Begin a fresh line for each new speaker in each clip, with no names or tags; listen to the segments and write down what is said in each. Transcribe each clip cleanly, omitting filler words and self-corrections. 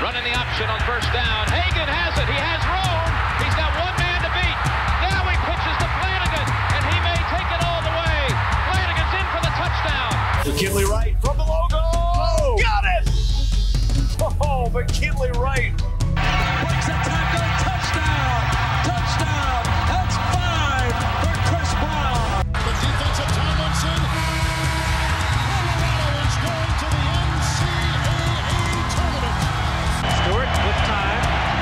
Running the option on first down. Hagan has it. He has room. He's got one man to beat. Now he pitches to Flanagan, and he may take it all the way. Flanagan's in for the touchdown.
McKinley Wright from the logo. Oh, got it! Oh, McKinley Wright.
Breaks a tackle. Touchdown. Touchdown. That's 5 for Chris Brown.
The defensive Tomlinson. Colorado is going to the NCAA tournament.
Stewart with time.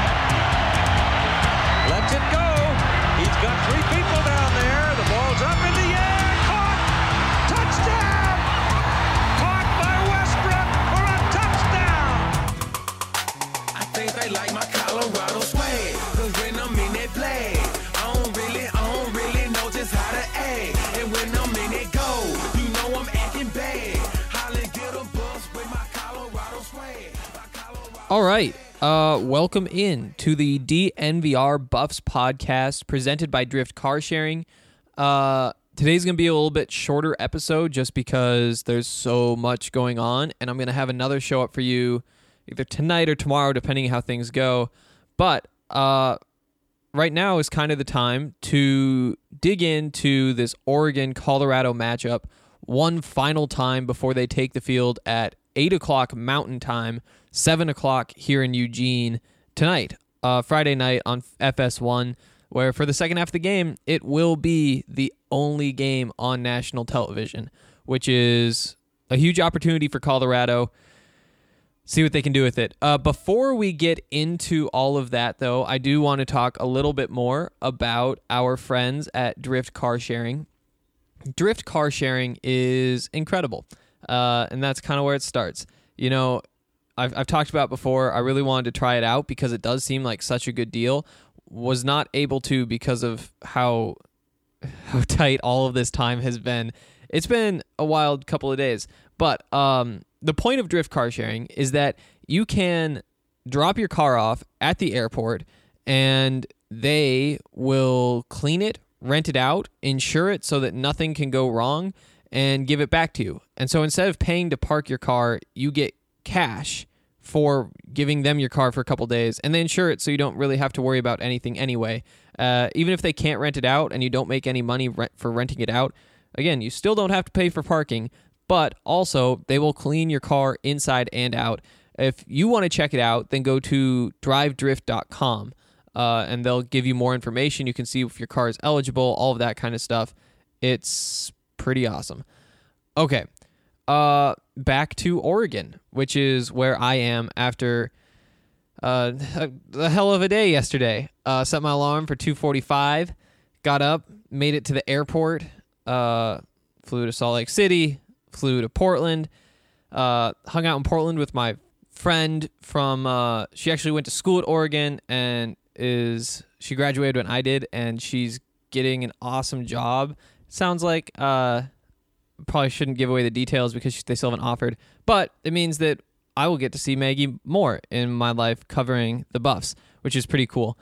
Lets it go. He's got 3 people down there. The ball's up in the air. Caught. Touchdown. Caught by Westbrook for a touchdown.
I think they like my Colorado swag, 'cause when I'm in that play, I don't really know just how to act. And when I'm in it go, you know I'm acting bad. Holly get a bus with my Colorado swag.
All right. Welcome in to the DNVR Buffs podcast presented by Drift Car Sharing. Today's going to be a little bit shorter episode just because there's so much going on, and I'm going to have another show up for you either tonight or tomorrow, depending how things go. But right now is kind of the time to dig into this Oregon-Colorado matchup one final time before they take the field at 8 o'clock Mountain Time, 7 o'clock here in Eugene tonight, Friday night on FS1, where for the second half of the game, it will be the only game on national television, which is a huge opportunity for Colorado. See what they can do with it. Before we get into all of that, though, I do want to talk a little bit more about our friends at Drift Car Sharing. Drift Car Sharing is incredible, and that's kind of where it starts. You know, I've talked about before, I really wanted to try it out because it does seem like such a good deal. Was not able to because of how tight all of this time has been. It's been a wild couple of days, but the point of Drift Car Sharing is that you can drop your car off at the airport and they will clean it, rent it out, insure it so that nothing can go wrong, and give it back to you. And so instead of paying to park your car, you get cash for giving them your car for a couple days, and they insure it so you don't really have to worry about anything anyway. Even if they can't rent it out and you don't make any money for renting it out, again, you still don't have to pay for parking, but also they will clean your car inside and out. If you want to check it out, then go to drivedrift.com, and they'll give you more information. You can see if your car is eligible, all of that kind of stuff. It's pretty awesome. Okay, back to Oregon, which is where I am after a hell of a day yesterday. Set my alarm for 2:45, got up, made it to the airport, flew to Salt Lake City, flew to Portland, hung out in Portland with my friend from, she actually went to school at Oregon and she graduated when I did, and she's getting an awesome job. Sounds like, probably shouldn't give away the details because they still haven't offered, but it means that I will get to see Maggie more in my life covering the Buffs, which is pretty cool.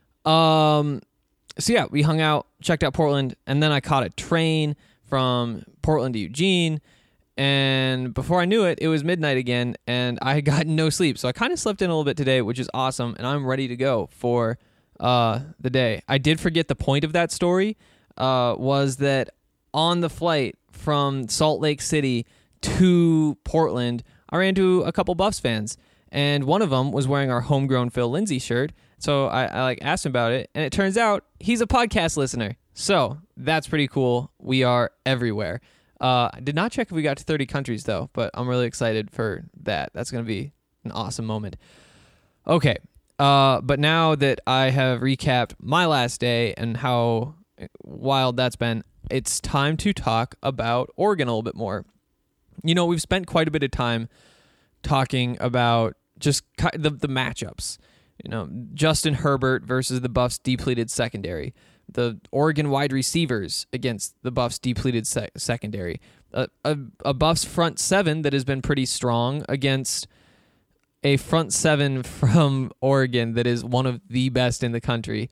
So yeah, we hung out, checked out Portland, and then I caught a train from Portland to Eugene, and before I knew it, it was midnight again, and I had gotten no sleep, so I kind of slept in a little bit today, which is awesome, and I'm ready to go for the day. I did forget the point of that story, was that on the flight from Salt Lake City to Portland, I ran into a couple Buffs fans, and one of them was wearing our homegrown Phil Lindsay shirt. So I asked him about it, and it turns out he's a podcast listener. So that's pretty cool. We are everywhere. I did not check if we got to 30 countries though, but I'm really excited for that. That's going to be an awesome moment. Okay. But now that I have recapped my last day and how wild that's been, it's time to talk about Oregon a little bit more. You know, we've spent quite a bit of time talking about just the matchups. You know, Justin Herbert versus the Buffs' depleted secondary. The Oregon wide receivers against the Buffs' depleted secondary. A Buffs front seven that has been pretty strong against a front seven from Oregon that is one of the best in the country.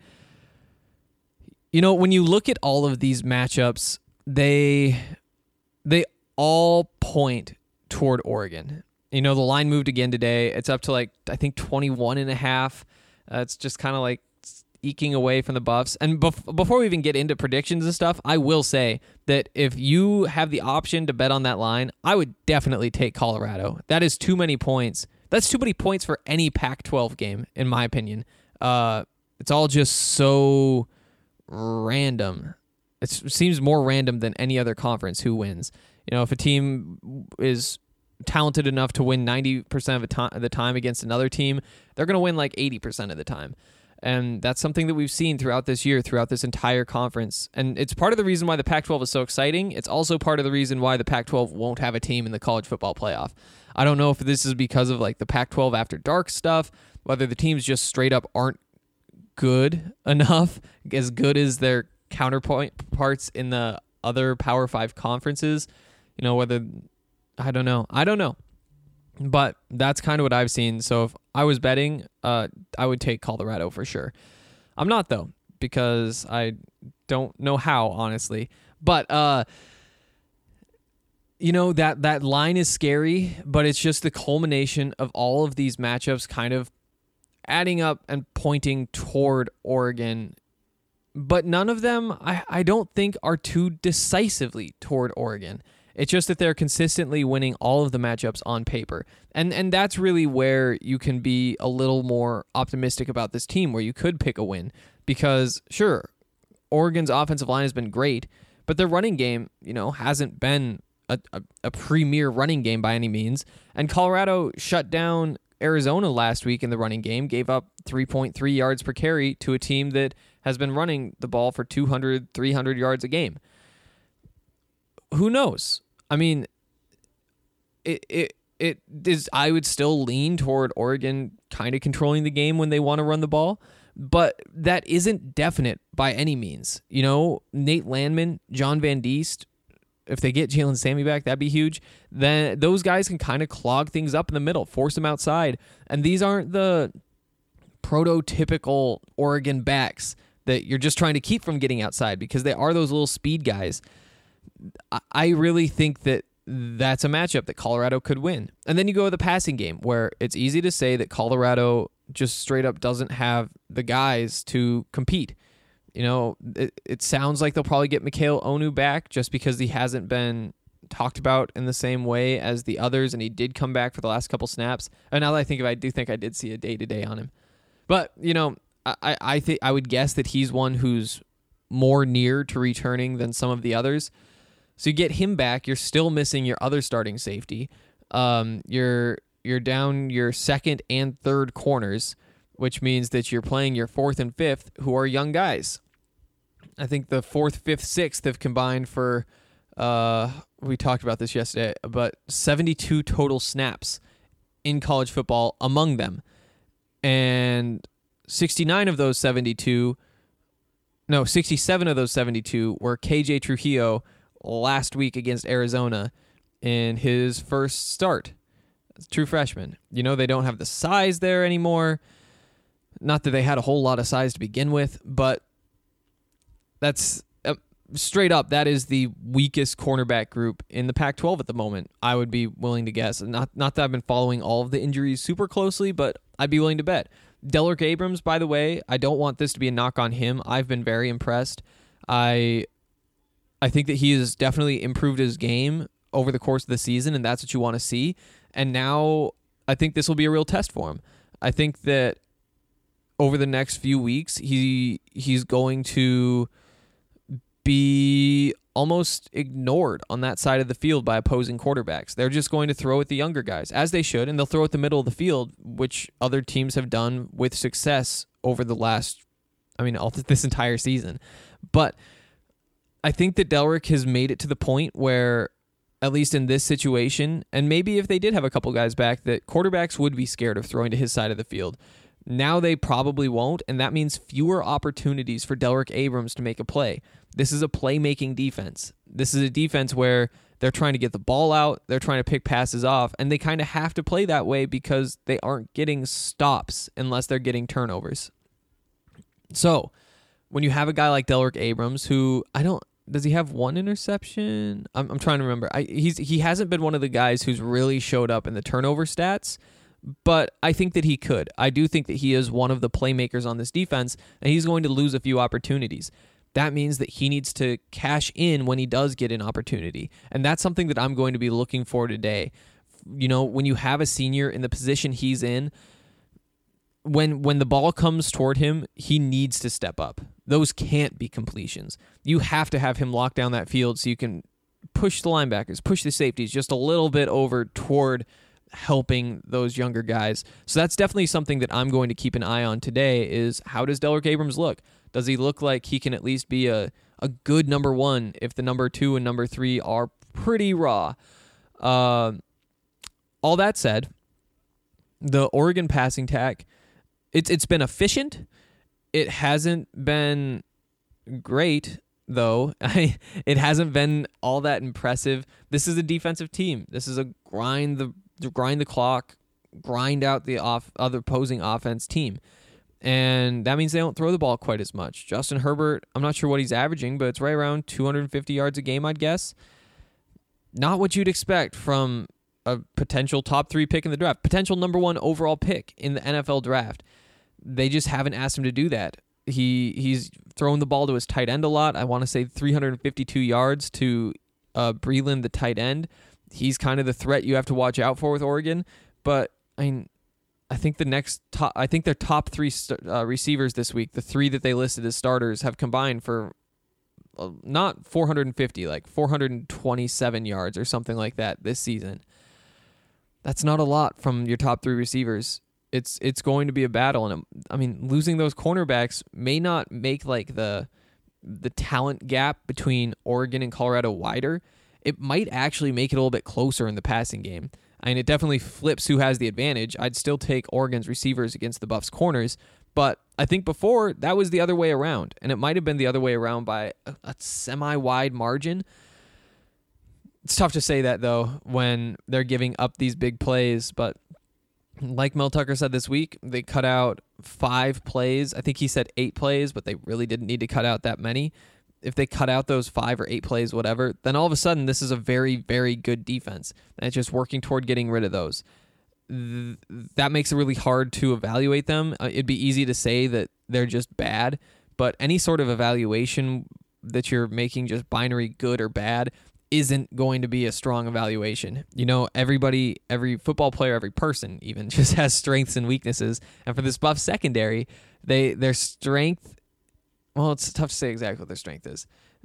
You know, when you look at all of these matchups, they all point toward Oregon. The line moved again today. It's up to I think 21.5. It's just kind of eking away from the Buffs. And before we even get into predictions and stuff, I will say that if you have the option to bet on that line, I would definitely take Colorado. That is too many points. That's too many points for any Pac-12 game, in my opinion. It's all just so random. It seems more random than any other conference who wins. If a team is talented enough to win 90% of the time against another team, they're going to win 80% of the time. And that's something that we've seen throughout this year, throughout this entire conference. And it's part of the reason why the Pac-12 is so exciting. It's also part of the reason why the Pac-12 won't have a team in the college football playoff. I don't know if this is because of the Pac-12 after dark stuff, whether the teams just straight up aren't good enough, as good as their counterparts in the other Power 5 conferences. Whether, I don't know. But that's kind of what I've seen. So if I was betting, I would take Colorado for sure. I'm not, though, because I don't know how, honestly. But, that line is scary, but it's just the culmination of all of these matchups kind of adding up and pointing toward Oregon. But none of them, I don't think, are too decisively toward Oregon. It's just that they're consistently winning all of the matchups on paper. And that's really where you can be a little more optimistic about this team, where you could pick a win. Because, sure, Oregon's offensive line has been great, but their running game, hasn't been a premier running game by any means. And Colorado shut down Arizona last week in the running game, gave up 3.3 yards per carry to a team that has been running the ball for 200, 300 yards a game. Who knows? I mean, it is. I would still lean toward Oregon kind of controlling the game when they want to run the ball, but that isn't definite by any means. Nate Landman, John Van Diest, if they get Jalen Sammy back, that'd be huge. Then those guys can kind of clog things up in the middle, force them outside. And these aren't the prototypical Oregon backs that you're just trying to keep from getting outside, because they are those little speed guys. I really think that that's a matchup that Colorado could win. And then you go to the passing game, where it's easy to say that Colorado just straight up doesn't have the guys to compete. It sounds like they'll probably get Mikhail Onu back just because he hasn't been talked about in the same way as the others, and he did come back for the last couple snaps. And now that I think of it, I do think I did see a day-to-day on him. But, I think I would guess that he's one who's more near to returning than some of the others. So you get him back, you're still missing your other starting safety. You're down your second and third corners, which means that you're playing your fourth and fifth, who are young guys. I think the fourth, fifth, sixth have combined for, we talked about this yesterday, but 72 total snaps in college football among them. And 67 of those 72 were KJ Trujillo last week against Arizona in his first start. True freshman. They don't have the size there anymore. Not that they had a whole lot of size to begin with, but that's straight up, that is the weakest cornerback group in the Pac-12 at the moment, I would be willing to guess. Not that I've been following all of the injuries super closely, but I'd be willing to bet. Delrick Abrams, by the way, I don't want this to be a knock on him. I've been very impressed. I think that he has definitely improved his game over the course of the season, and that's what you want to see. And now I think this will be a real test for him. I think that over the next few weeks, he's going to be almost ignored on that side of the field by opposing quarterbacks. They're just going to throw at the younger guys, as they should, and they'll throw at the middle of the field, which other teams have done with success over this entire season. But I think that Delrick has made it to the point where, at least in this situation, and maybe if they did have a couple guys back, that quarterbacks would be scared of throwing to his side of the field. Now they probably won't, and that means fewer opportunities for Delrick Abrams to make a play. This is a playmaking defense. This is a defense where they're trying to get the ball out, they're trying to pick passes off, and they kind of have to play that way because they aren't getting stops unless they're getting turnovers. So, when you have a guy like Delrick Abrams, who Does he have one interception? I'm trying to remember. He hasn't been one of the guys who's really showed up in the turnover stats, but I think that he could. I do think that he is one of the playmakers on this defense, and he's going to lose a few opportunities. That means that he needs to cash in when he does get an opportunity, and that's something that I'm going to be looking for today. When you have a senior in the position he's in, when the ball comes toward him, he needs to step up. Those can't be completions. You have to have him lock down that field so you can push the linebackers, push the safeties just a little bit over toward helping those younger guys. So that's definitely something that I'm going to keep an eye on today is how does Delrick Abrams look? Does he look like he can at least be a good number one if the number 2 and number 3 are pretty raw? All that said, the Oregon passing attack, it's been efficient. It hasn't been great, though. It hasn't been all that impressive. This is a defensive team. This is a grind the clock, grind out the other opposing offense team. And that means they don't throw the ball quite as much. Justin Herbert, I'm not sure what he's averaging, but it's right around 250 yards a game, I'd guess. Not what you'd expect from a potential top 3 pick in the draft, potential number 1 overall pick in the NFL draft. They just haven't asked him to do that. He's thrown the ball to his tight end a lot. I want to say 352 yards to Breeland, the tight end. He's kind of the threat you have to watch out for with Oregon. But I think their top 3 receivers this week, the 3 that they listed as starters, have combined for not 450, like 427 yards or something like that this season. That's not a lot from your top 3 receivers. It's going to be a battle, and losing those cornerbacks may not make like the talent gap between Oregon and Colorado wider. It might actually make it a little bit closer in the passing game. It definitely flips who has the advantage. I'd still take Oregon's receivers against the Buffs' corners, but I think before that was the other way around, and it might have been the other way around by a semi-wide margin. It's tough to say that, though, when they're giving up these big plays, but like Mel Tucker said this week, they cut out 5 plays. I think he said 8 plays, but they really didn't need to cut out that many. If they cut out those 5 or 8 plays, whatever, then all of a sudden this is a very, very good defense. And it's just working toward getting rid of those. That makes it really hard to evaluate them. It'd be easy to say that they're just bad, but any sort of evaluation that you're making just binary good or bad isn't going to be a strong evaluation. Everybody, every football player, every person even just has strengths and weaknesses. And for this Buff secondary, their strength, well, it's tough to say exactly what their strength is.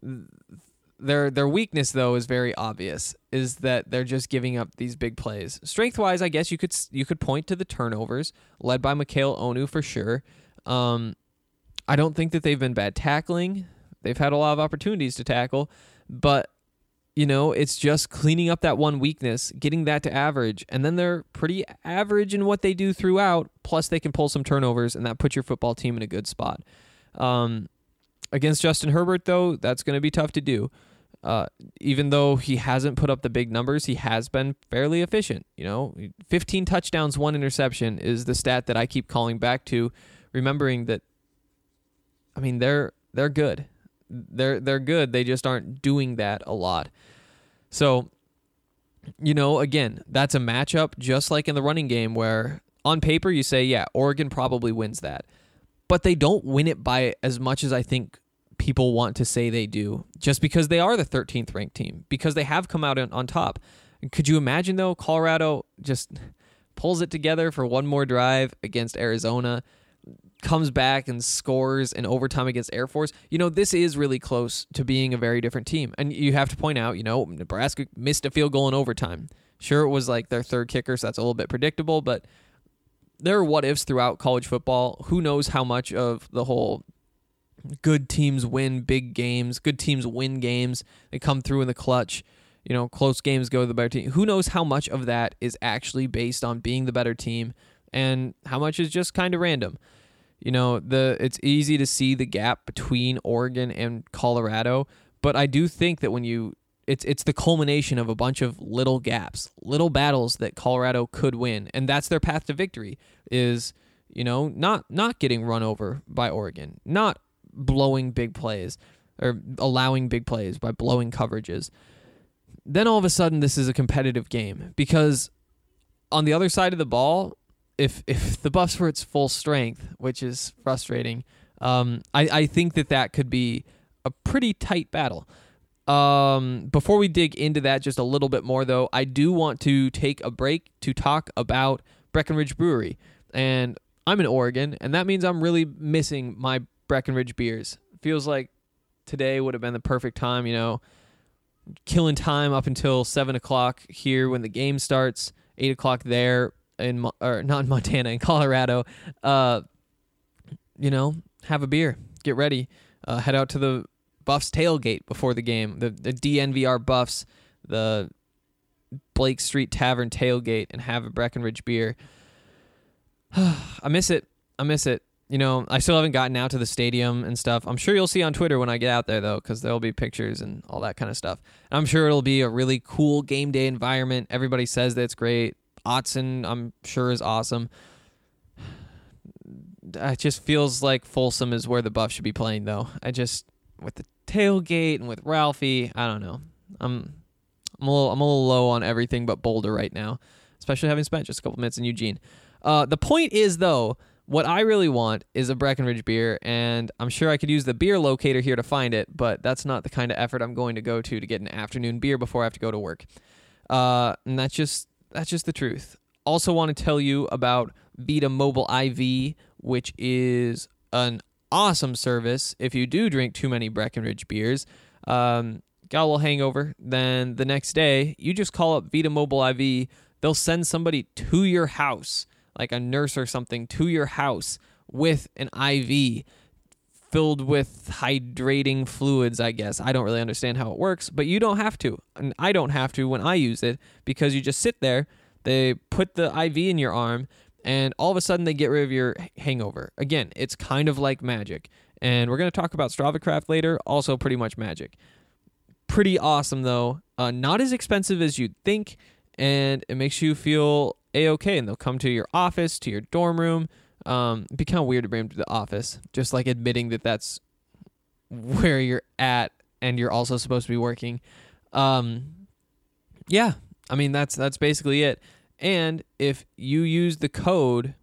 Their weakness, though, is very obvious, is that they're just giving up these big plays. Strength-wise, I guess you could point to the turnovers, led by Mikhail Onu for sure. I don't think that they've been bad tackling. They've had a lot of opportunities to tackle, but it's just cleaning up that one weakness, getting that to average, and then they're pretty average in what they do throughout, plus they can pull some turnovers, and that puts your football team in a good spot. Against Justin Herbert, though, that's going to be tough to do. Even though he hasn't put up the big numbers, he has been fairly efficient. 15 touchdowns, 1 interception is the stat that I keep calling back to, remembering that, they're good. They're good. They just aren't doing that a lot. So, again, that's a matchup just like in the running game where on paper you say, yeah, Oregon probably wins that. But they don't win it by as much as I think people want to say they do, just because they are the 13th ranked team, because they have come out on top. Could you imagine, though, Colorado just pulls it together for one more drive against Arizona, comes back and scores in overtime against Air Force? This is really close to being a very different team. And you have to point out, Nebraska missed a field goal in overtime. Sure, it was like their 3rd kicker, so that's a little bit predictable, but there are what-ifs throughout college football. Who knows how much of the whole good teams win big games, good teams win games, they come through in the clutch, close games go to the better team. Who knows how much of that is actually based on being the better team and how much is just kind of random. It's easy to see the gap between Oregon and Colorado, but I do think that when it's the culmination of a bunch of little gaps, little battles that Colorado could win, and that's their path to victory is, not getting run over by Oregon, not blowing big plays, or allowing big plays, by blowing coverages. Then all of a sudden this is a competitive game, because on the other side of the ball, if the Buffs were its full strength, which is frustrating, I think that could be a pretty tight battle. Before we dig into that just a little bit more, though, I do want to take a break to talk about Breckenridge Brewery. And I'm in Oregon, and that means I'm really missing my Breckenridge beers. Feels like today would have been the perfect time, killing time up until 7 o'clock here when the game starts, 8 o'clock there not in Montana, in Colorado. Have a beer, get ready, head out to the Buffs tailgate before the game, the DNVR Buffs, the Blake Street Tavern tailgate, and have a Breckenridge beer. I miss it. I still haven't gotten out to the stadium and stuff. I'm sure you'll see on Twitter when I get out there, though, because there'll be pictures and all that kind of stuff. And I'm sure it'll be a really cool game day environment. Everybody says that it's great. Autzen, I'm sure, is awesome. It just feels like Folsom is where the Buffs should be playing, though. With the tailgate and with Ralphie, I don't know. I'm a little low on everything but Boulder right now, especially having spent just a couple minutes in Eugene. The point is, though, what I really want is a Breckenridge beer, and I'm sure I could use the beer locator here to find it, but that's not the kind of effort I'm going to go to get an afternoon beer before I have to go to work. And that's just the truth. Also want to tell you about Vita Mobile IV, which is an awesome service if you do drink too many Breckenridge beers. Got a little hangover, then the next day, you just call up Vita Mobile IV. They'll send somebody to your house, like a nurse or something, to your house with an IV filled with hydrating fluids, I guess. I don't really understand how it works, but you don't have to. And I don't have to when I use it, because you just sit there, they put the IV in your arm, and all of a sudden they get rid of your hangover. Again, it's kind of like magic. And we're going to talk about StravaCraft later, also pretty much magic. Pretty awesome, though. Not as expensive as you'd think, and it makes you feel A-okay. And they'll come to your office, to your dorm room. It'd be kind of weird to bring them to the office, just like admitting that that's where you're at and you're also supposed to be working. Yeah, I mean, that's basically it. And if you use the code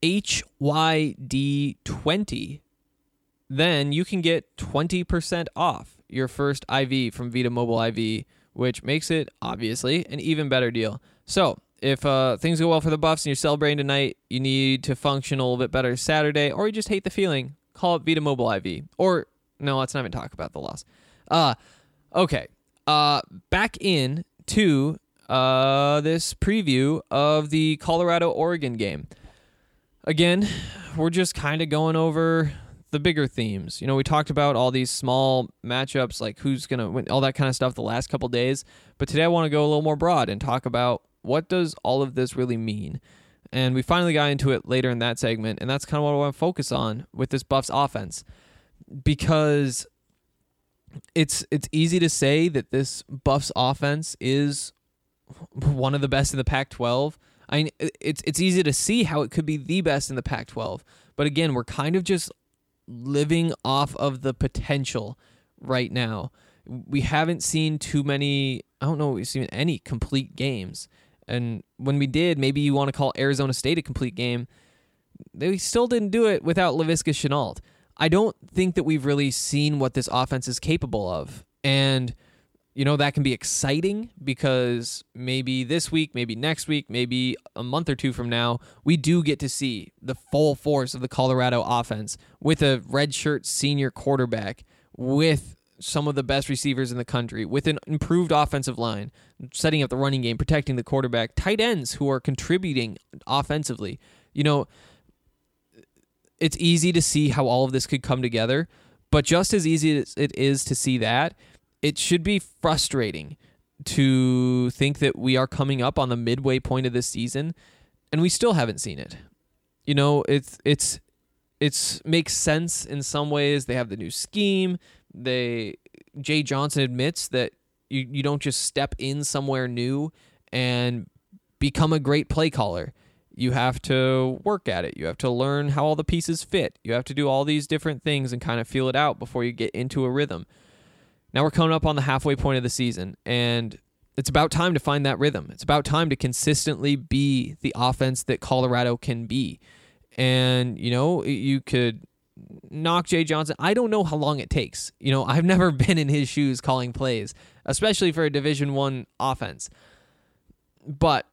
HYD20, then you can get 20% off your first IV from Vita Mobile IV, which makes it, obviously, an even better deal. So, if things go well for the Buffs and you're celebrating tonight, you need to function a little bit better Saturday, or you just hate the feeling, call up Vita Mobile IV. Or, no, let's not even talk about the loss. Okay. Back in to this preview of the Colorado-Oregon game. Again, we're just kind of going over the bigger themes. You know, we talked about all these small matchups, like who's going to win, all that kind of stuff the last couple days. But today I want to go a little more broad and talk about what does all of this really mean. And we finally got into it later in that segment, and that's kind of what I want to focus on with this Buffs offense. Because it's easy to say that this Buffs offense is one of the best in the Pac-12. I mean, it's easy to see how it could be the best in the Pac-12. But again, we're kind of just living off of the potential right now. We haven't seen too many, I don't know if we've seen any complete games. And when we did, maybe you want to call Arizona State a complete game, they still didn't do it without Laviska Shenault. I don't think that we've really seen what this offense is capable of. And, you know, that can be exciting because maybe this week, maybe next week, maybe a month or two from now, we do get to see the full force of the Colorado offense with a redshirt senior quarterback, with some of the best receivers in the country, with an improved offensive line, setting up the running game, protecting the quarterback, tight ends who are contributing offensively. You know, it's easy to see how all of this could come together, but just as easy as it is to see that, it should be frustrating to think that we are coming up on the midway point of this season and we still haven't seen it. You know, it's makes sense in some ways. They have the new scheme. Jay Johnson admits that you don't just step in somewhere new and become a great play caller. You have to work at it. You have to learn how all the pieces fit. You have to do all these different things and kind of feel it out before you get into a rhythm. Now we're coming up on the halfway point of the season, and it's about time to find that rhythm. It's about time to consistently be the offense that Colorado can be. And, you could knock Jay Johnson. I don't know how long it takes. I've never been in his shoes calling plays, especially for a Division I offense. But,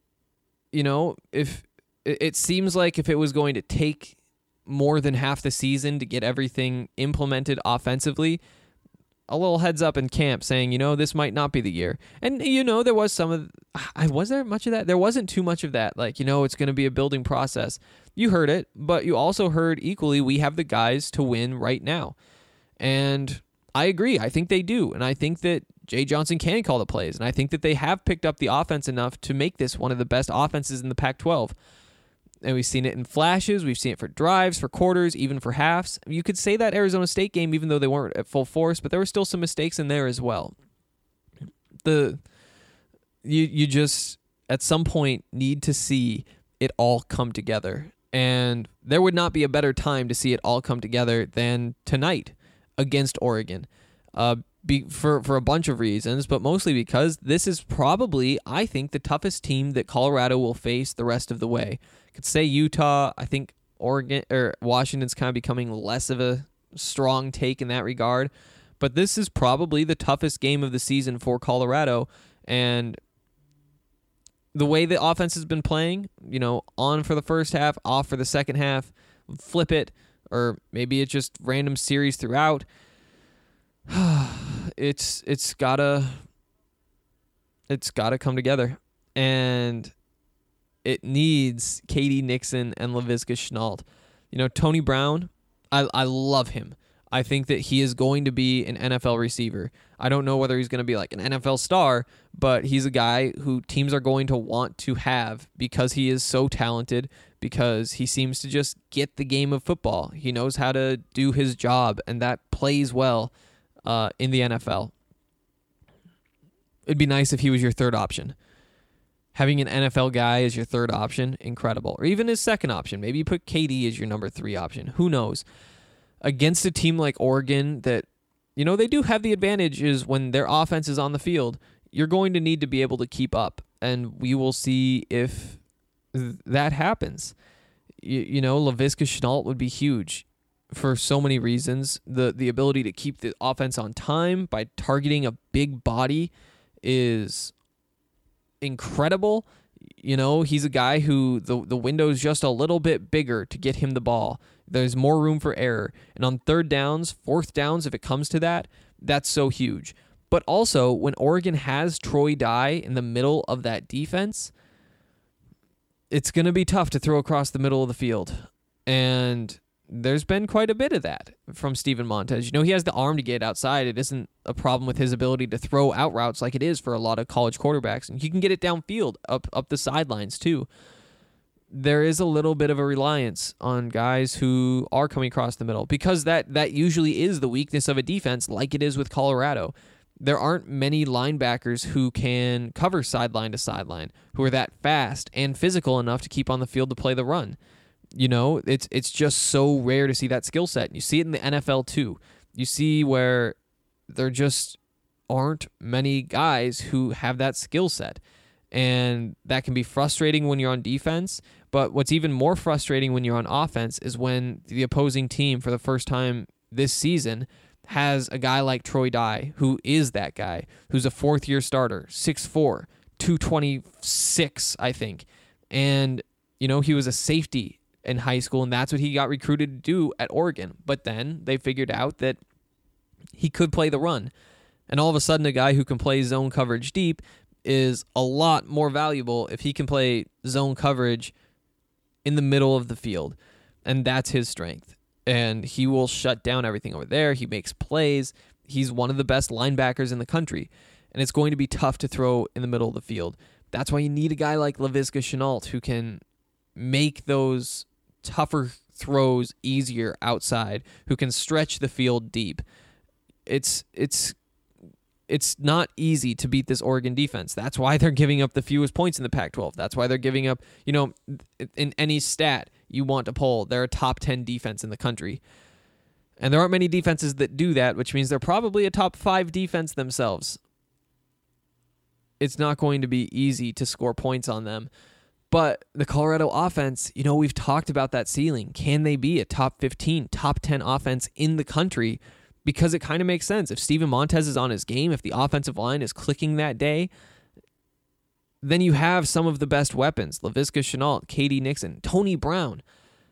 if it seems like if it was going to take more than half the season to get everything implemented offensively, a little heads up in camp saying, this might not be the year. And, there was was there much of that? There wasn't too much of that. Like, it's going to be a building process. You heard it, but you also heard equally, we have the guys to win right now. And I agree. I think they do. And I think that Jay Johnson can call the plays. And I think that they have picked up the offense enough to make this one of the best offenses in the Pac-12. And we've seen it in flashes. We've seen it for drives, for quarters, even for halves. You could say that Arizona State game, even though they weren't at full force, but there were still some mistakes in there as well. You just, at some point, need to see it all come together. And there would not be a better time to see it all come together than tonight against Oregon. For a bunch of reasons, but mostly because this is probably, I think, the toughest team that Colorado will face the rest of the way. Could say Utah. I think Oregon or Washington's kind of becoming less of a strong take in that regard, but this is probably the toughest game of the season for Colorado. And the way the offense has been playing, on for the first half, off for the second half, flip it, or maybe it's just random series throughout. It's gotta come together, and it needs K.D. Nixon and Laviska Shenault. Tony Brown, I love him. I think that he is going to be an NFL receiver. I don't know whether he's going to be like an NFL star, but he's a guy who teams are going to want to have because he is so talented, because he seems to just get the game of football. He knows how to do his job, and that plays well in the NFL. It'd be nice if he was your third option. Having an NFL guy as your third option, incredible. Or even his second option. Maybe you put KD as your number 3 option. Who knows? Against a team like Oregon that, they do have the advantage is when their offense is on the field, you're going to need to be able to keep up. And we will see if that happens. Laviska Shenault would be huge for so many reasons. The ability to keep the offense on time by targeting a big body is incredible. He's a guy who the window's just a little bit bigger to get him the ball. There's more room for error. And on third downs, fourth downs, if it comes to that, that's so huge. But also, when Oregon has Troy Dye in the middle of that defense, it's going to be tough to throw across the middle of the field. And there's been quite a bit of that from Steven Montez. He has the arm to get outside. It isn't a problem with his ability to throw out routes like it is for a lot of college quarterbacks. And he can get it downfield, up the sidelines too. There is a little bit of a reliance on guys who are coming across the middle, because that usually is the weakness of a defense, like it is with Colorado. There aren't many linebackers who can cover sideline to sideline, who are that fast and physical enough to keep on the field to play the run. It's just so rare to see that skill set. You see it in the NFL too. You see where there just aren't many guys who have that skill set. And that can be frustrating when you're on defense. But what's even more frustrating when you're on offense is when the opposing team, for the first time this season, has a guy like Troy Dye, who is that guy, who's a fourth-year starter, 6'4", 226, I think. And, he was a safety in high school, and that's what he got recruited to do at Oregon. But then they figured out that he could play the run. And all of a sudden, a guy who can play zone coverage deep is a lot more valuable if he can play zone coverage in the middle of the field. And that's his strength. And he will shut down everything over there. He makes plays. He's one of the best linebackers in the country. And it's going to be tough to throw in the middle of the field. That's why you need a guy like Laviska Shenault who can make those tougher throws easier outside, who can stretch the field deep. It's not easy to beat this Oregon defense. That's why they're giving up the fewest points in the Pac-12. That's why they're giving up, in any stat you want to pull, they're a top 10 defense in the country. And there aren't many defenses that do that, which means they're probably a top 5 defense themselves. It's not going to be easy to score points on them. But the Colorado offense, we've talked about that ceiling. Can they be a top 15, top 10 offense in the country? Because it kind of makes sense. If Steven Montez is on his game, if the offensive line is clicking that day, then you have some of the best weapons. Laviska Shenault, K.D. Nixon, Tony Brown.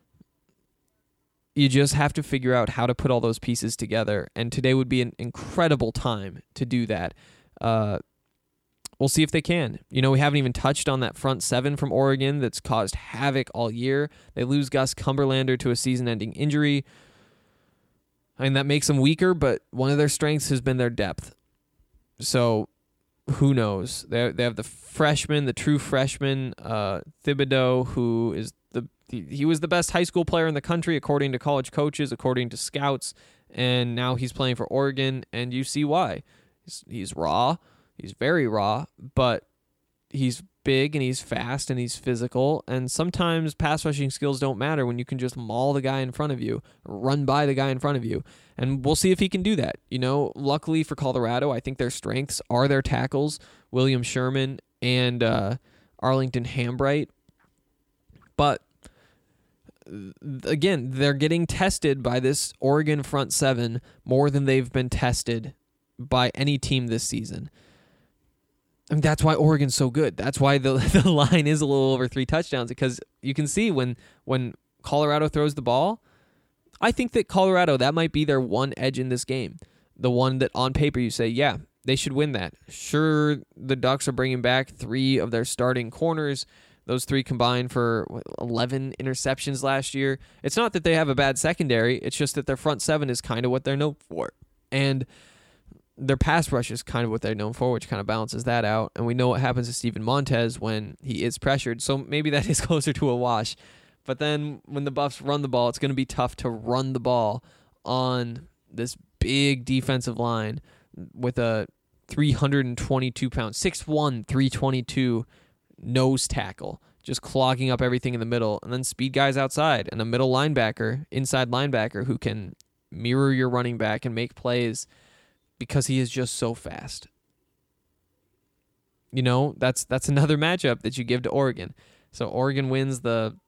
You just have to figure out how to put all those pieces together. And today would be an incredible time to do that. We'll see if they can. We haven't even touched on that front 7 from Oregon that's caused havoc all year. They lose Gus Cumberlander to a season-ending injury. I mean, that makes them weaker, but one of their strengths has been their depth. So who knows? They have the freshman, the true freshman, Thibodeau, who is he was the best high school player in the country according to college coaches, according to scouts, and now he's playing for Oregon, and you see why. He's raw. He's very raw, but he's big and he's fast and he's physical, and sometimes pass rushing skills don't matter when you can just maul the guy in front of you, run by the guy in front of you, and we'll see if he can do that. Luckily for Colorado, I think their strengths are their tackles, William Sherman and Arlington Hambright, but again, they're getting tested by this Oregon front 7 more than they've been tested by any team this season. And that's why Oregon's so good. That's why the line is a little over 3 touchdowns, because you can see when Colorado throws the ball, I think that Colorado, that might be their one edge in this game. The one that on paper you say, yeah, they should win that. Sure, the Ducks are bringing back 3 of their starting corners. Those 3 combined for 11 interceptions last year. It's not that they have a bad secondary. It's just that their front 7 is kind of what they're known for. And their pass rush is kind of what they're known for, which kind of balances that out. And we know what happens to Steven Montez when he is pressured. So maybe that is closer to a wash. But then when the Buffs run the ball, it's going to be tough to run the ball on this big defensive line with a 322-pound, 6'1", 322 nose tackle, just clogging up everything in the middle, and then speed guys outside, and a middle linebacker, inside linebacker, who can mirror your running back and make plays because he is just so fast. That's another matchup that you give to Oregon. So Oregon wins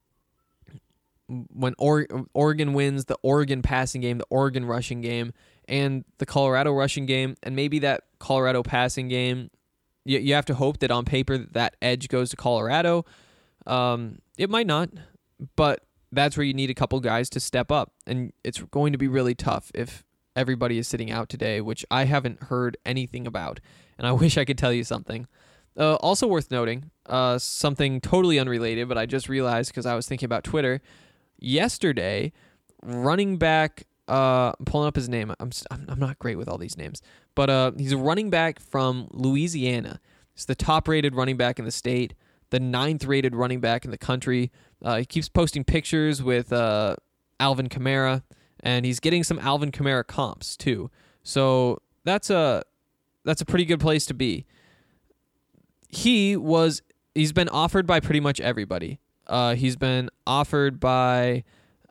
Oregon wins the Oregon passing game, the Oregon rushing game, and the Colorado rushing game, and maybe that Colorado passing game, you have to hope that on paper that edge goes to Colorado. It might not, but that's where you need a couple guys to step up, and it's going to be really tough if everybody is sitting out today, which I haven't heard anything about, and I wish I could tell you something. Also worth noting, something totally unrelated, but I just realized because I was thinking about Twitter. Yesterday, running back, I'm pulling up his name. I'm not great with all these names, but he's a running back from Louisiana. He's the top-rated running back in the state, the 9th-rated running back in the country. He keeps posting pictures with Alvin Kamara, and he's getting some Alvin Kamara comps too. So that's a pretty good place to be. He's been offered by pretty much everybody. He's been offered by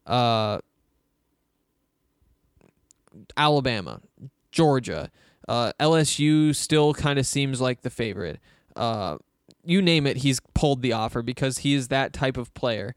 Alabama, Georgia, LSU still kind of seems like the favorite. You name it, he's pulled the offer because he is that type of player.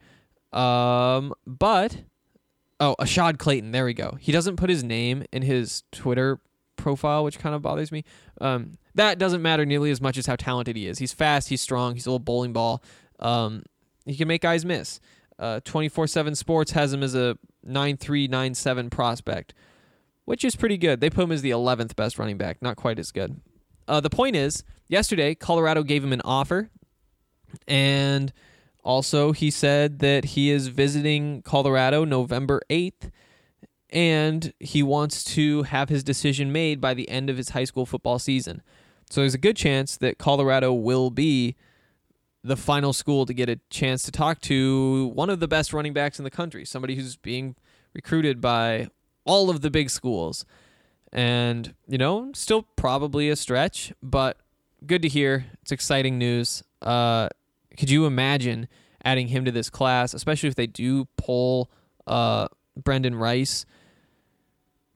Ashad Clayton, there we go. He doesn't put his name in his Twitter profile, which kind of bothers me. That doesn't matter nearly as much as how talented he is. He's fast, he's strong, he's a little bowling ball. He can make guys miss. 24/7 Sports has him as a 9.3, 9.7 prospect, which is pretty good. They put him as the 11th best running back, not quite as good. The point is, yesterday, Colorado gave him an offer, and also he said that he is visiting Colorado November 8th, and he wants to have his decision made by the end of his high school football season. So there's a good chance that Colorado will be the final school to get a chance to talk to one of the best running backs in the country, somebody who's being recruited by all of the big schools. And, still probably a stretch, but good to hear. It's exciting news. Could you imagine adding him to this class, especially if they do pull Brendan Rice?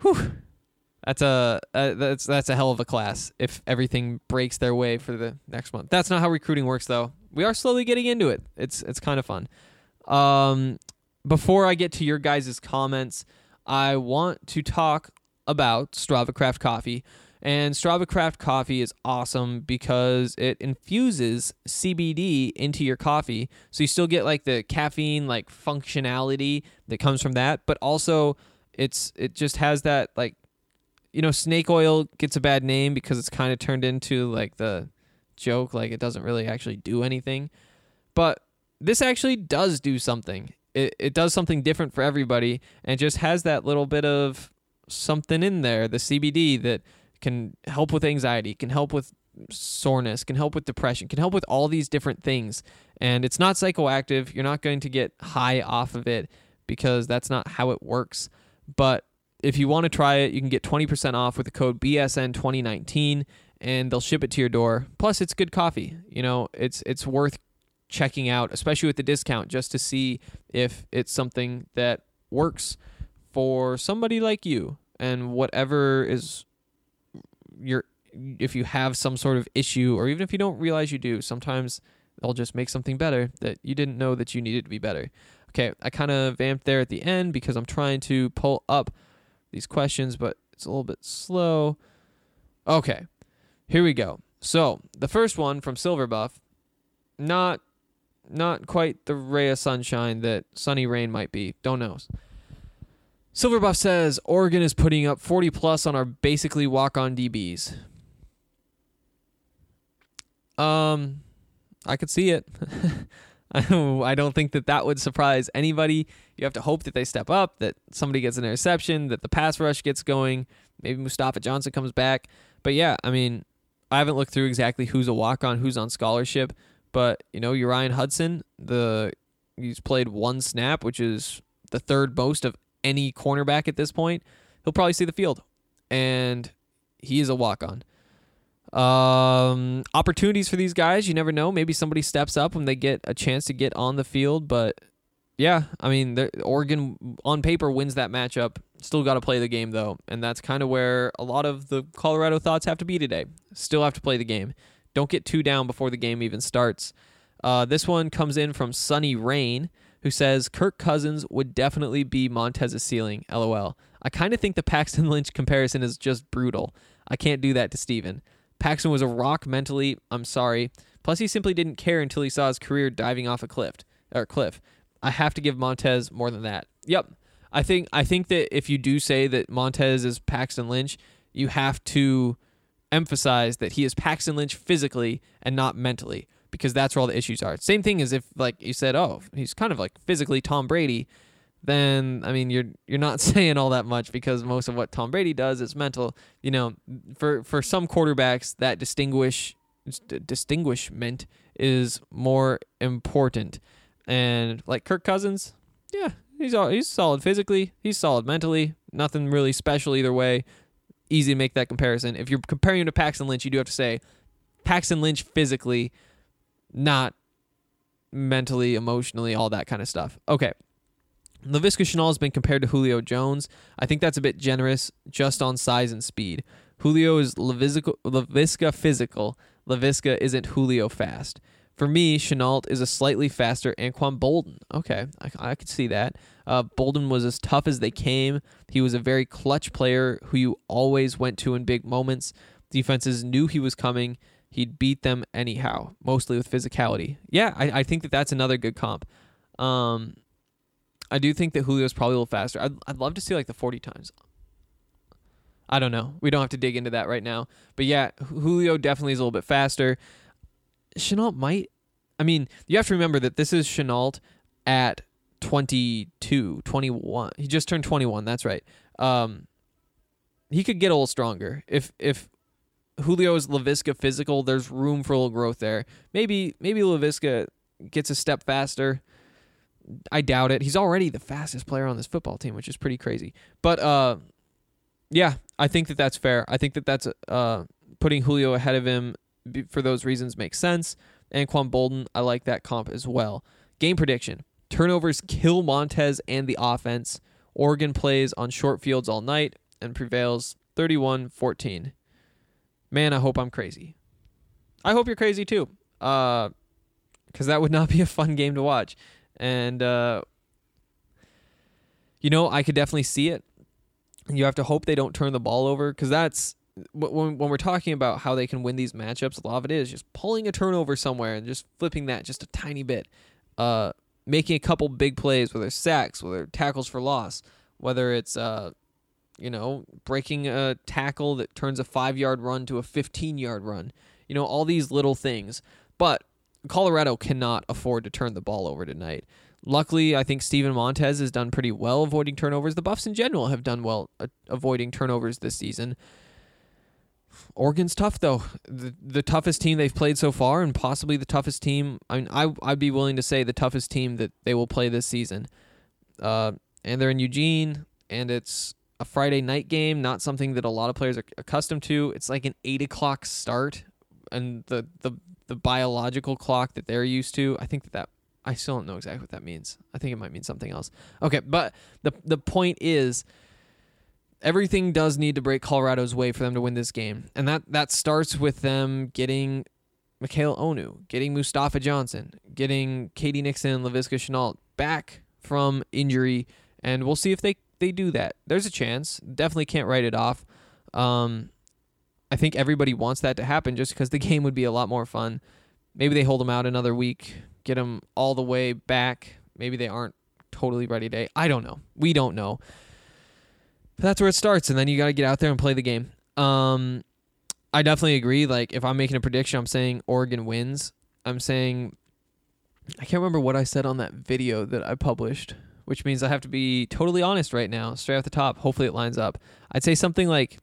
That's a hell of a class if everything breaks their way for the next month. That's not how recruiting works, though. We are slowly getting into it. It's kind of fun. Before I get to your guys' comments, I want to talk about Strava Craft Coffee. And Strava Craft Coffee is awesome because it infuses CBD into your coffee. So you still get like the caffeine like functionality that comes from that, but also it just has that like, snake oil gets a bad name because it's kind of turned into like the joke, like it doesn't really actually do anything. But this actually does do something. It does something different for everybody, and it just has that little bit of something in there, the CBD, that can help with anxiety, can help with soreness, can help with depression, can help with all these different things. And it's not psychoactive. You're not going to get high off of it because that's not how it works. But if you want to try it, you can get 20% off with the code BSN2019, and they'll ship it to your door. Plus, it's good coffee. It's worth checking out, especially with the discount, just to see if it's something that works for somebody like you. And whatever is if you have some sort of issue, or even if you don't realize you do, sometimes they'll just make something better that you didn't know that you needed to be better. Okay, I kind of vamped there at the end because I'm trying to pull up these questions, but it's a little bit slow. Okay, here we go. So the first one from Silverbuff, not quite the ray of sunshine that Sunny Rain might be. Don't know. Silverbuff says Oregon is putting up 40 plus on our basically walk-on DBs. I could see it. I don't think that would surprise anybody. You have to hope that they step up, that somebody gets an interception, that the pass rush gets going, maybe Mustafa Johnson comes back. But yeah, I mean, I haven't looked through exactly who's a walk-on, who's on scholarship, but Uriah Hudson, he's played one snap, which is the third most of any cornerback at this point. He'll probably see the field, and he is a walk-on. Opportunities for these guys, you never know. Maybe somebody steps up when they get a chance to get on the field, but yeah, I mean, Oregon on paper wins that matchup. Still got to play the game, though, and that's kind of where a lot of the Colorado thoughts have to be today. Still have to play the game. Don't get too down before the game even starts. This one comes in from Sunny Rain, who says Kirk Cousins would definitely be Montez's ceiling, LOL. I kind of think the Paxton Lynch comparison is just brutal. I can't do that to Steven. Paxton was a rock mentally, I'm sorry. Plus, he simply didn't care until he saw his career diving off a cliff. I have to give Montez more than that. Yep. I think that if you do say that Montez is Paxton Lynch, you have to emphasize that he is Paxton Lynch physically and not mentally, because that's where all the issues are. Same thing as if, like, you said, oh, he's kind of like physically Tom Brady, then, I mean, you're not saying all that much, because most of what Tom Brady does is mental. For some quarterbacks, that distinguishment is more important. And like Kirk Cousins, yeah, he's solid physically, he's solid mentally, nothing really special either way. Easy to make that comparison. If you're comparing him to Paxton Lynch, you do have to say Paxton Lynch physically, not mentally, emotionally, all that kind of stuff. Okay. Laviska Shenault has been compared to Julio Jones. I think that's a bit generous just on size and speed. Julio is Laviska physical. Laviska isn't Julio fast. For me, Shenault is a slightly faster Anquan Boldin. Okay, I could see that. Boldin was as tough as they came. He was a very clutch player who you always went to in big moments. Defenses knew he was coming. He'd beat them anyhow, mostly with physicality. Yeah, I think that that's another good comp. I do think that Julio's probably a little faster. I'd love to see like the 40 times. I don't know. We don't have to dig into that right now. But yeah, Julio definitely is a little bit faster. Shenault might. I mean, you have to remember that this is Shenault at 22, 21. He just turned 21. That's right. He could get a little stronger. If Julio is Laviska physical, there's room for a little growth there. Maybe Laviska gets a step faster. I doubt it. He's already the fastest player on this football team, which is pretty crazy. But yeah, I think that that's fair. I think that that's putting Julio ahead of him for those reasons makes sense. Anquan Boldin, I like that comp as well. Game prediction. Turnovers kill Montez and the offense. Oregon plays on short fields all night. and prevails 31-14. Man, I hope I'm crazy. I hope you're crazy too, because that would not be a fun game to watch. And, I could definitely see it. You have to hope they don't turn the ball over, because that's when we're talking about how they can win these matchups, a lot of it is just pulling a turnover somewhere and just flipping that just a tiny bit, making a couple big plays, whether it's sacks, whether it's tackles for loss, whether it's breaking a tackle that turns a 5-yard run to a 15-yard run. All these little things. But Colorado cannot afford to turn the ball over tonight. Luckily, I think Steven Montez has done pretty well avoiding turnovers. The Buffs in general have done well avoiding turnovers this season. Oregon's tough, though. The toughest team they've played so far, and possibly the toughest team. I'd be willing to say the toughest team that they will play this season. And they're in Eugene, and it's a Friday night game, not something that a lot of players are accustomed to. It's like an 8 o'clock start, and the biological clock that they're used to. I think that I still don't know exactly what that means. I think it might mean something else. Okay, but the point is, everything does need to break Colorado's way for them to win this game. And that starts with them getting Mikhail Onu, getting Mustafa Johnson, getting Katie Nixon and Laviska Shenault back from injury. And we'll see if they do that. There's a chance. Definitely can't write it off. I think everybody wants that to happen just because the game would be a lot more fun. Maybe they hold them out another week, get them all the way back. Maybe they aren't totally ready today. I don't know. We don't know. But that's where it starts, and then you got to get out there and play the game. I definitely agree. Like, if I'm making a prediction, I'm saying Oregon wins. I'm saying, I can't remember what I said on that video that I published, which means I have to be totally honest right now, straight off the top. Hopefully it lines up. I'd say something like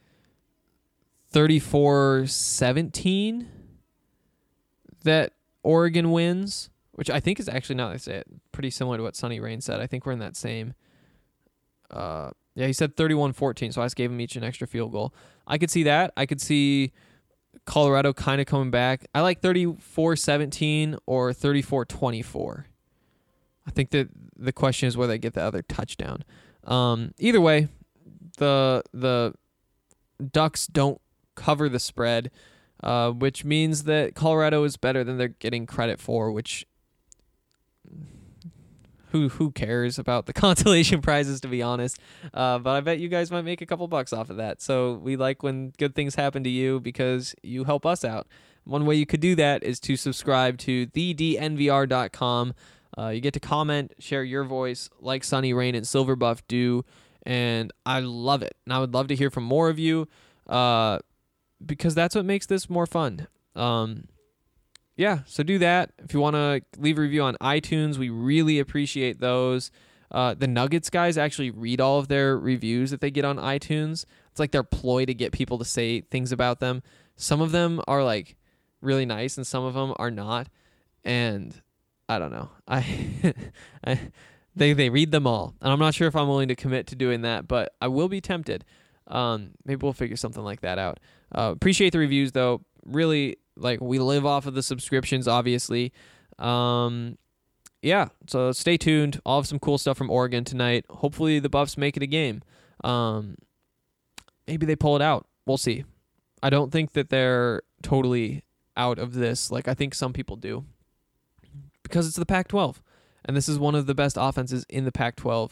34-17 that Oregon wins, which I think is actually, now that I say it, pretty similar to what Sonny Rain said. I think we're in that same... he said 31-14, so I just gave them each an extra field goal. I could see that. I could see Colorado kind of coming back. I like 34-17 or 34-24. I think that the question is whether they get the other touchdown. Either way, the Ducks don't cover the spread, which means that Colorado is better than they're getting credit for, which... Who cares about the consolation prizes, to be honest? But I bet you guys might make a couple bucks off of that. So we like when good things happen to you because you help us out. One way you could do that is to subscribe to thednvr.com. You get to comment, share your voice like Sonny Rain and Silverbuff do, and I love it. And I would love to hear from more of you because that's what makes this more fun. Yeah, so do that. If you want to leave a review on iTunes, we really appreciate those. The Nuggets guys actually read all of their reviews that they get on iTunes. It's like their ploy to get people to say things about them. Some of them are like really nice, and some of them are not. And I don't know. They read them all, and I'm not sure if I'm willing to commit to doing that, but I will be tempted. Maybe we'll figure something like that out. Appreciate the reviews though. Really. Like, we live off of the subscriptions, obviously. Yeah, so stay tuned. I'll have some cool stuff from Oregon tonight. Hopefully the Buffs make it a game. Maybe they pull it out. We'll see. I don't think that they're totally out of this like I think some people do. Because it's the Pac-12. And this is one of the best offenses in the Pac-12.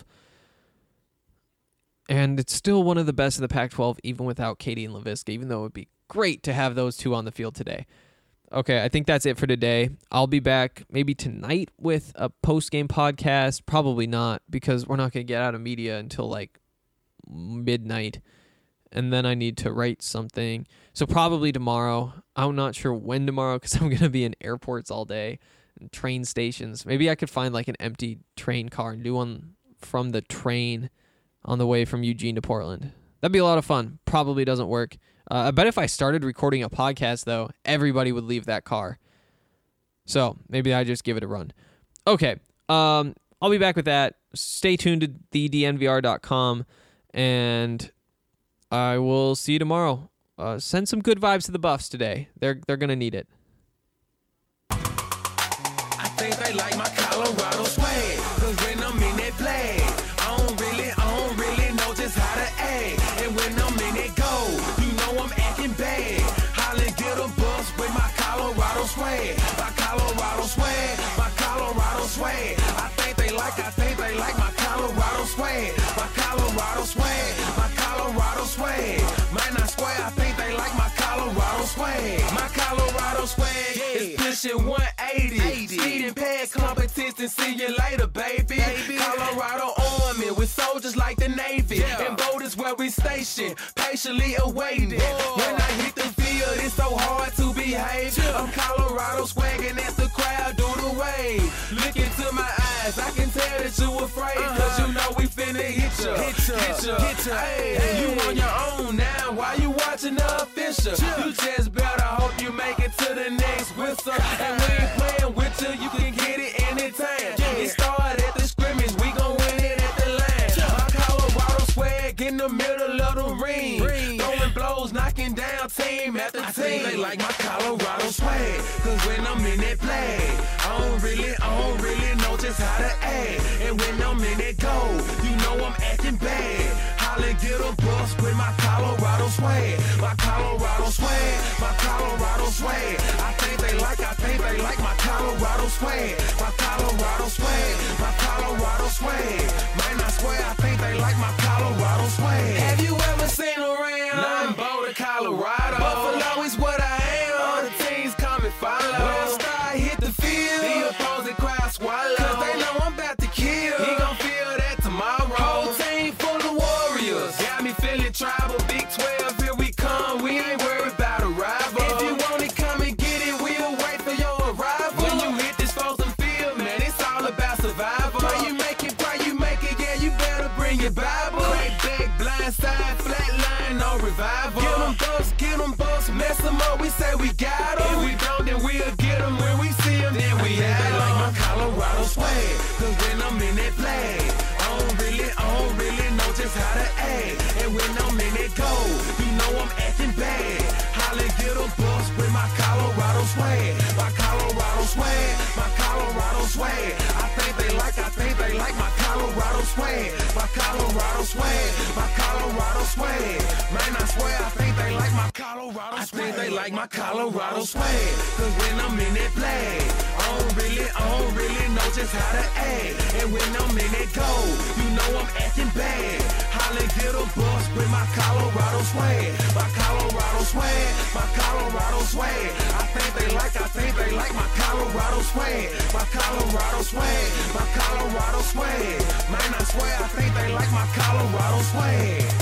And it's still one of the best in the Pac-12, even without Katie and Laviska, even though it would be great to have those two on the field today. Okay, I think that's it for today. I'll be back maybe tonight with a post-game podcast. Probably not, because we're not going to get out of media until like midnight. And then I need to write something. So probably tomorrow. I'm not sure when tomorrow because I'm going to be in airports all day and train stations. Maybe I could find like an empty train car and do one from the train on the way from Eugene to Portland. That'd be a lot of fun. Probably doesn't work. I bet if I started recording a podcast, though, everybody would leave that car. So maybe I just give it a run. Okay. I'll be back with that. Stay tuned to thednvr.com, and I will see you tomorrow. Send some good vibes to the Buffs today. They're going to need it.
I think they like my Colorado swag, 'cause when I'm in that flag, I don't really know just how to act. station 180. Speeding past competition, see you later, baby. Colorado Army with soldiers like the Navy. And boat is where we station, patiently awaiting. When I hit the field, it's so hard to behave. I'm Colorado swagging as the crowd do the wave. Look into my eyes, I can tell that you afraid. Cause you know we finna hit ya. Hey, you on your own now, why you watching the official? You just better hope you make it to the next whistle. And we ain't playing with you can get it anytime. It started at the scrimmage, we gon' win it at the line. My Colorado swag in the middle of the ring. Throwing blows, knocking down team after team. I think they like my Colorado swag, cause when I'm in that play, I don't really know just how to act. And when I'm in that goal, you know I'm acting bad. Holla, get a bus with my Colorado swag. My Colorado swag, my Colorado swag. I think they like my Colorado swag. My Colorado swag, my Colorado swag. Man, I swear, I think they like my Colorado swag. Have you ever seen around? I'm Boulder, Colorado. Buffalo is what I am. All the teams come and follow. When Star hit the field, the opposing crowd swallow. Cause they know I'm about to kill. He gon' feel that tomorrow. Whole team full of warriors. Got me feeling tribal. Big 12, here we come. We ain't worried about a rival. If you want it, come and get it. We'll wait for your arrival. When you hit this Folsom field, man, it's all about survival. Pray you make it, yeah, you better bring your Bible. Crack back, blind side, flat line, no revival. Get them bucks, mess them up, we say we got them. If we don't, then we'll get them. When we see them, then we have them. Like my Colorado swag, cause when I'm in that play, I don't really know just how to act. And when I'm in that goal, you know I'm acting bad. Holla, get a bus with my Colorado swag. My Colorado swag, my Colorado swag. I think they like my Colorado swag. My Colorado swag, my Colorado swag. Man, I swear, I think they like my Colorado swag. I think they like my Colorado swag. Cause when I'm in that play, I don't really know just how to act. And when I'm in that goal, you know I'm acting bad. Holla, get a bus with my Colorado swag. My Colorado swag, my Colorado swag. I think they like my Colorado swag. My Colorado swag, my Colorado swag. Man, I swear, I think they like my Colorado swag.